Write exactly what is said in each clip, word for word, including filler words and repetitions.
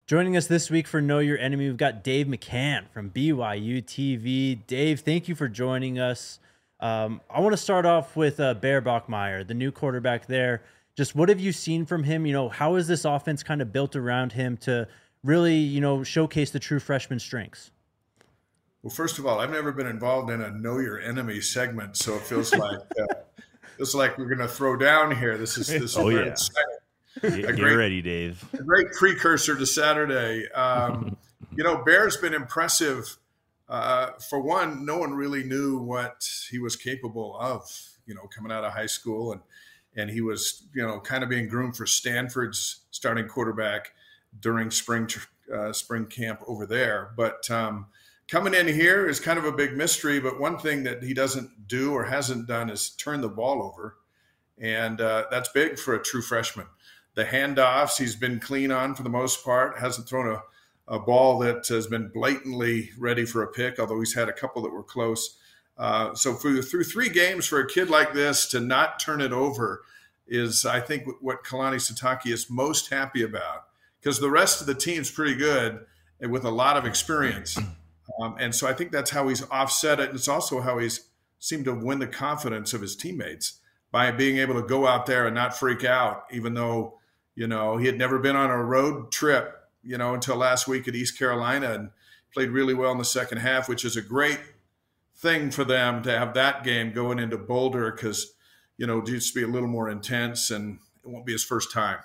Joining us this week for Know Your Enemy, we've got Dave McCann from B Y U T V. Dave, thank you for joining us. Um, I want to start off with uh, Bear Bachmeier, the new quarterback there. Just what have you seen from him? You know, how is this offense kind of built around him to really, you know, showcase the true freshman strengths? Well, first of all, I've never been involved in a Know Your Enemy segment, so it feels like uh, feels like we're going to throw down here. This is this is oh very yeah. exciting. Get, a get great, ready, Dave. A great precursor to Saturday. Um, you know, Bear's been impressive. Uh, for one, no one really knew what he was capable of, you know, coming out of high school. And, and he was, you know, kind of being groomed for Stanford's starting quarterback during spring uh, spring camp over there. But um, coming in here is kind of a big mystery. But one thing that he doesn't do or hasn't done is turn the ball over. And uh, that's big for a true freshman. The handoffs he's been clean on for the most part, hasn't thrown a, a ball that has been blatantly ready for a pick, although he's had a couple that were close. Uh, so for, through three games for a kid like this to not turn it over is, I think, what Kalani Sitake is most happy about, because the rest of the team's pretty good and with a lot of experience. Um, and so I think that's how he's offset it. And it's also how he's seemed to win the confidence of his teammates by being able to go out there and not freak out, even though – you know, he had never been on a road trip, you know, until last week at East Carolina, and played really well in the second half, which is a great thing for them to have that game going into Boulder because, you know, just be a little more intense, and it won't be his first time.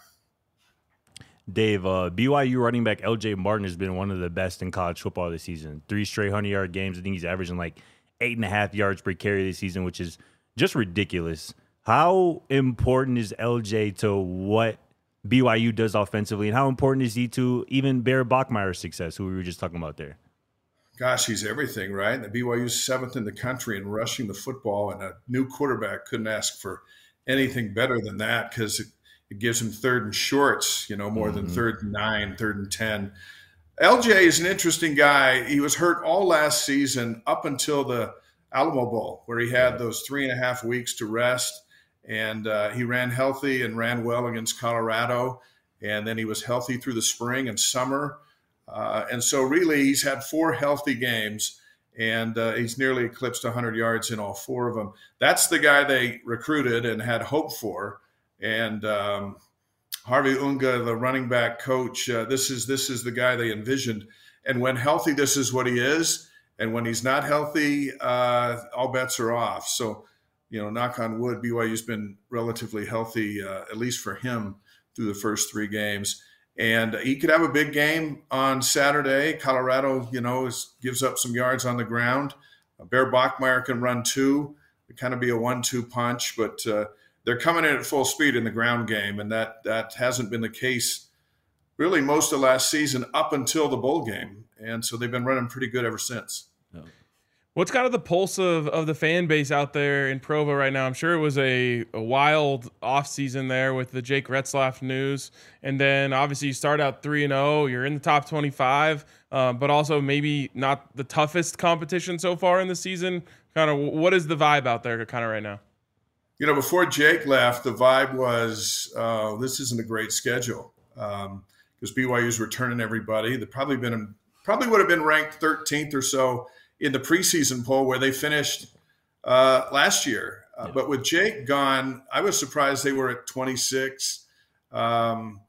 Dave, uh, B Y U running back L J Martin has been one of the best in college football this season. Three straight hundred-yard games. I think he's averaging like eight and a half yards per carry this season, which is just ridiculous. How important is L J to what B Y U does offensively, and how important is he to even Bear Bachmeier's success, who we were just talking about there? Gosh, he's everything, right? The B Y U's seventh in the country in rushing the football, and a new quarterback couldn't ask for anything better than that because it, it gives him third and shorts, you know, more mm-hmm. than third and nine, third and ten. L J is an interesting guy. He was hurt all last season up until the Alamo Bowl, where he had those three and a half weeks to rest. And uh, he ran healthy and ran well against Colorado. And then he was healthy through the spring and summer. Uh, and so really he's had four healthy games, and uh, he's nearly eclipsed one hundred yards in all four of them. That's the guy they recruited and had hope for. And um, Harvey Unga, the running back coach, uh, this is this is the guy they envisioned. And when healthy, this is what he is. And when he's not healthy, uh, all bets are off. So, you know, knock on wood, B Y U's been relatively healthy, uh, at least for him, through the first three games. And he could have a big game on Saturday. Colorado, you know, is, gives up some yards on the ground. Bear Bachmeier can run too. It kind of be a one two punch, but uh, they're coming in at full speed in the ground game, and that that hasn't been the case really most of last season up until the bowl game. And so they've been running pretty good ever since. Yeah. What's kind of the pulse of, of the fan base out there in Provo right now? I'm sure it was a, a wild offseason there with the Jake Retzlaff news. And then obviously you start out three and oh, you're in the top twenty-five, uh, but also maybe not the toughest competition so far in the season. Kind of what is the vibe out there kind of right now? You know, before Jake left, the vibe was uh, this isn't a great schedule because um, B Y U's returning everybody. They've probably been probably would have been ranked thirteenth or so in the preseason poll where they finished uh, last year. Uh, yeah. But with Jake gone, I was surprised they were at twenty-six. Um,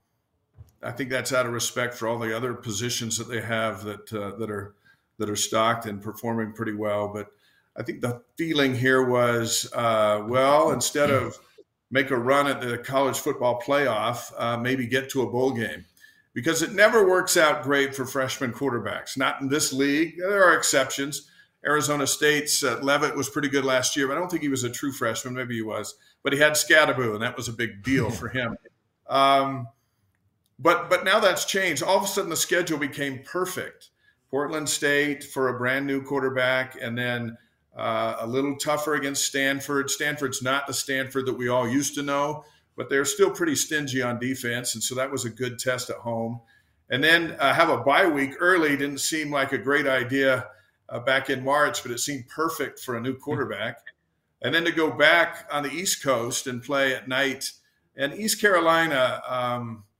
I think that's out of respect for all the other positions that they have that uh, that are that are stocked and performing pretty well. But I think the feeling here was, uh, well, instead of make a run at the college football playoff, uh, maybe get to a bowl game. Because it never works out great for freshman quarterbacks. Not in this league. There are exceptions. Arizona State's uh, Levitt was pretty good last year, but I don't think he was a true freshman. Maybe he was. But he had Scadaboo, and that was a big deal for him. Um, but but now that's changed. All of a sudden, the schedule became perfect. Portland State for a brand new quarterback, and then uh, a little tougher against Stanford. Stanford's not the Stanford that we all used to know, but they're still pretty stingy on defense, and so that was a good test at home. And then uh, have a bye week early didn't seem like a great idea uh, back in March, but it seemed perfect for a new quarterback. And then to go back on the East Coast and play at night. And East Carolina, um,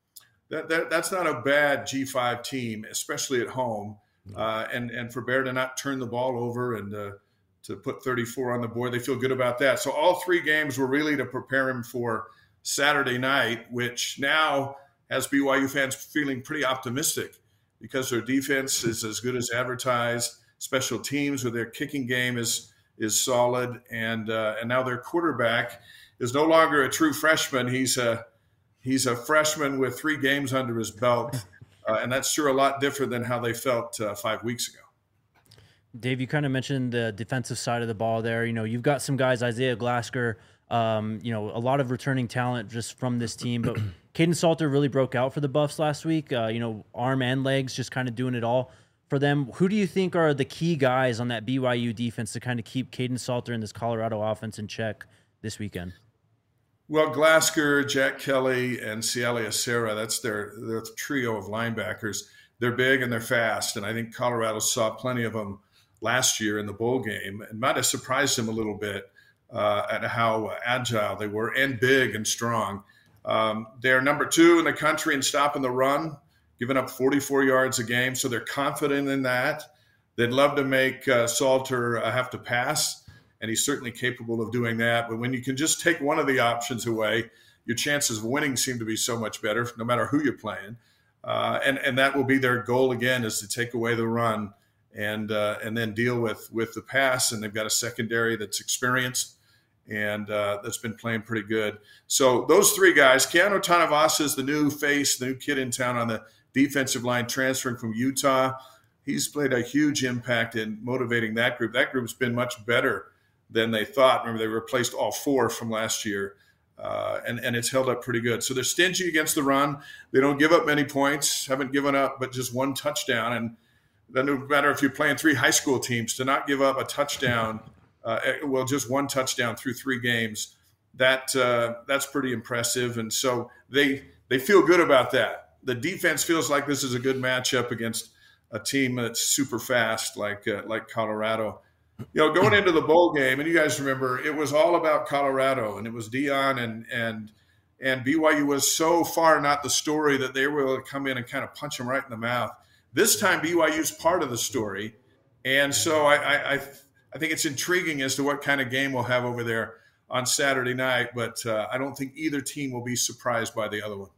that, that that's not a bad G five team, especially at home. Uh, and and for Bear to not turn the ball over and uh, to put thirty-four on the board, they feel good about that. So all three games were really to prepare him for Saturday night, which now has B Y U fans feeling pretty optimistic because their defense is as good as advertised. Special teams with their kicking game is is solid, and uh, and now their quarterback is no longer a true freshman. He's a he's a freshman with three games under his belt, uh, and that's sure a lot different than how they felt uh, five weeks ago. Dave, you kind of mentioned the defensive side of the ball there. You know, you've got some guys, Isaiah Glasker, um, you know, a lot of returning talent just from this team, but Caden Salter really broke out for the Buffs last week. Uh, you know, arm and legs, just kind of doing it all for them. Who do you think are the key guys on that B Y U defense to kind of keep Caden Salter and this Colorado offense in check this weekend? Well, Glasker, Jack Kelly, and Cialia Serra, that's their, their trio of linebackers. They're big and they're fast, and I think Colorado saw plenty of them last year in the bowl game and might have surprised them a little bit uh, at how agile they were and big and strong. Um, they're number two in the country in stopping the run, giving up forty-four yards a game, so they're confident in that. They'd love to make uh, Salter uh, have to pass, and he's certainly capable of doing that. But when you can just take one of the options away, your chances of winning seem to be so much better, no matter who you're playing. Uh, and, and that will be their goal again, is to take away the run and uh, and then deal with, with the pass. And they've got a secondary that's experienced and uh, that's been playing pretty good. So those three guys, Keanu Tanavasa is the new face, the new kid in town on the defensive line, transferring from Utah. He's played a huge impact in motivating that group. That group's been much better than they thought. Remember, they replaced all four from last year, uh, and, and it's held up pretty good. So they're stingy against the run. They don't give up many points, haven't given up but just one touchdown. And it doesn't matter if you're playing three high school teams, to not give up a touchdown, uh, well, just one touchdown through three games, that uh, that's pretty impressive. And so they they feel good about that. The defense feels like this is a good matchup against a team that's super fast like uh, like Colorado. You know, going into the bowl game, and you guys remember, it was all about Colorado, and it was Deion and and and B Y U was so far not the story that they were able to come in and kind of punch them right in the mouth. This time, B Y U's part of the story, and so I I, I, I think it's intriguing as to what kind of game we'll have over there on Saturday night. But uh, I don't think either team will be surprised by the other one.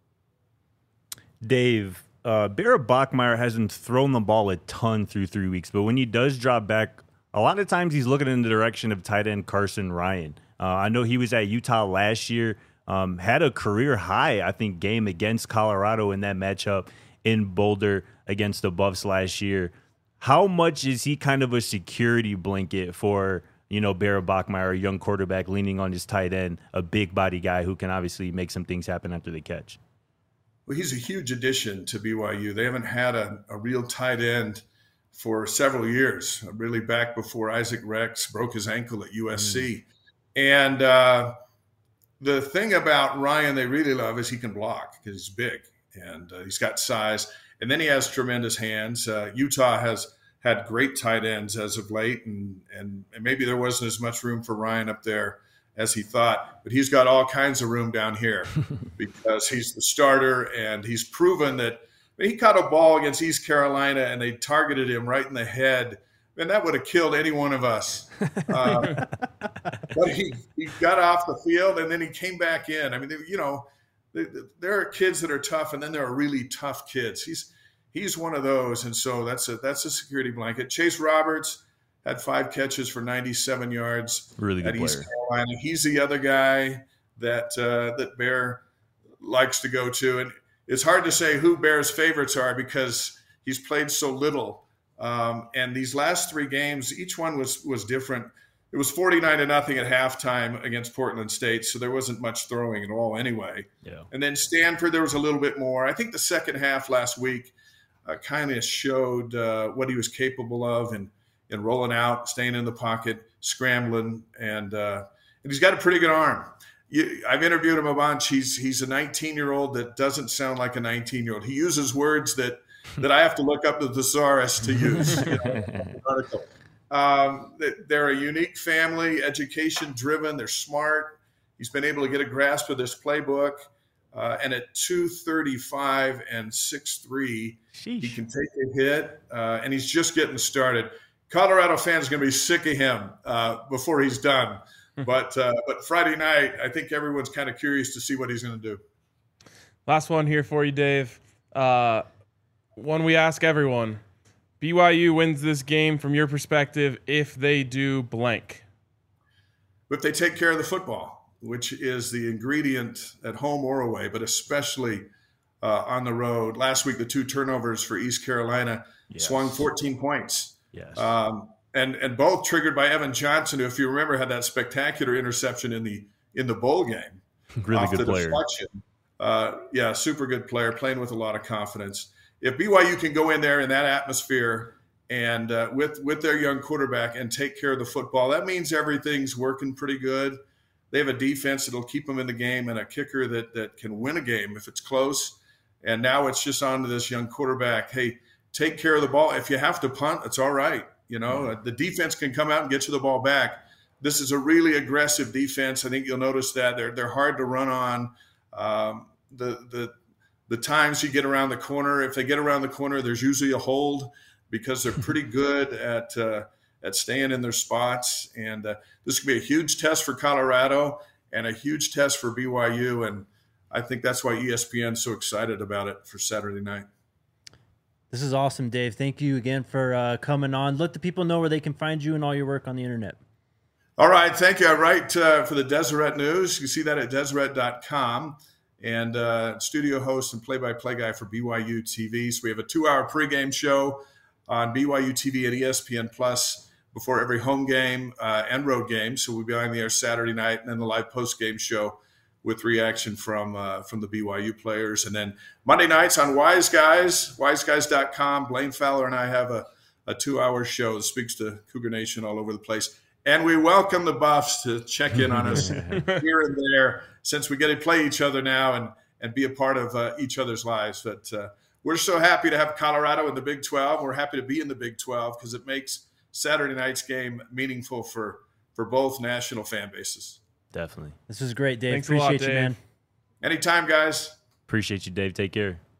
Dave, uh, Bear Bachmeier hasn't thrown the ball a ton through three weeks, but when he does drop back, a lot of times he's looking in the direction of tight end Carson Ryan. Uh, I know he was at Utah last year, um, had a career high, I think, game against Colorado in that matchup in Boulder against the Buffs last year. How much is he kind of a security blanket for, you know, Bear Bachmeier, a young quarterback leaning on his tight end, a big body guy who can obviously make some things happen after the catch? Well, he's a huge addition to B Y U. They haven't had a, a real tight end for several years, really back before Isaac Rex broke his ankle at U S C. Mm. And uh, the thing about Ryan they really love is he can block because he's big and uh, he's got size. And then he has tremendous hands. Uh, Utah has had great tight ends as of late, and, and and maybe there wasn't as much room for Ryan up there as he thought. But he's got all kinds of room down here because he's the starter, and he's proven that I mean, he caught a ball against East Carolina, and they targeted him right in the head. And that would have killed any one of us. Uh, but he, he got off the field, and then he came back in. I mean, you know, there are kids that are tough, and then there are really tough kids. He's he's one of those, and so that's a that's a security blanket. Chase Roberts had five catches for ninety-seven yards. Really good at player. East Carolina. He's the other guy that uh, that Bear likes to go to, and it's hard to say who Bear's favorites are because he's played so little. Um, and these last three games, each one was was different. It was forty-nine to nothing at halftime against Portland State, so there wasn't much throwing at all anyway. Yeah. And then Stanford, there was a little bit more. I think the second half last week uh, kind of showed uh, what he was capable of and and rolling out, staying in the pocket, scrambling, and uh, and he's got a pretty good arm. You, I've interviewed him a bunch. He's he's a nineteen-year-old that doesn't sound like a nineteen-year-old. He uses words that that I have to look up the thesaurus to use. You know, article. Um, they're a unique family, education-driven. They're smart. He's been able to get a grasp of this playbook. Uh, and at two thirty-five and six three, he can take a hit, uh, and he's just getting started. Colorado fans are going to be sick of him uh, before he's done. But uh, but Friday night, I think everyone's kind of curious to see what he's going to do. Last one here for you, Dave. Uh, one we ask everyone. B Y U wins this game from your perspective if they do blank. If they take care of the football, which is the ingredient at home or away, but especially uh, on the road. Last week, the two turnovers for East Carolina yes. swung fourteen points. Yes. Um, and and both triggered by Evan Johnson, who, if you remember, had that spectacular interception in the in the bowl game. Really good player. Uh, yeah, super good player, playing with a lot of confidence. If B Y U can go in there in that atmosphere and uh, with with their young quarterback and take care of the football, that means everything's working pretty good. They have a defense that'll keep them in the game and a kicker that that can win a game if it's close. And now it's just on to this young quarterback. Hey, take care of the ball. If you have to punt, it's all right. You know, mm-hmm. the defense can come out and get you the ball back. This is a really aggressive defense. I think you'll notice that they're they're hard to run on. Um, the the the times you get around the corner, if they get around the corner, there's usually a hold because they're pretty good at uh, at staying in their spots. And uh, this could be a huge test for Colorado and a huge test for B Y U. And I think that's why E S P N's so excited about it for Saturday night. This is awesome, Dave. Thank you again for uh, coming on. Let the people know where they can find you and all your work on the internet. All right. Thank you. I write uh, for the Deseret News. You can see that at Deseret dot com. And uh, studio host and play-by-play guy for B Y U T V. So we have a two-hour pregame show on B Y U T V and E S P N Plus before every home game uh, and road game. So we'll be on the air Saturday night, and then the live post-game show with reaction from uh, from the B Y U players. And then Monday nights on Wise Guys, wise guys dot com. Blaine Fowler and I have a, a two-hour show that speaks to Cougar Nation all over the place. And we welcome the Buffs to check in on us here and there, since we get to play each other now and, and be a part of uh, each other's lives. But uh, we're so happy to have Colorado in the Big twelve. We're happy to be in the Big twelve because it makes Saturday night's game meaningful for, for both national fan bases. Definitely. This was great, Dave. Thanks Appreciate a lot, you, Dave. man. Anytime, guys. Appreciate you, Dave. Take care.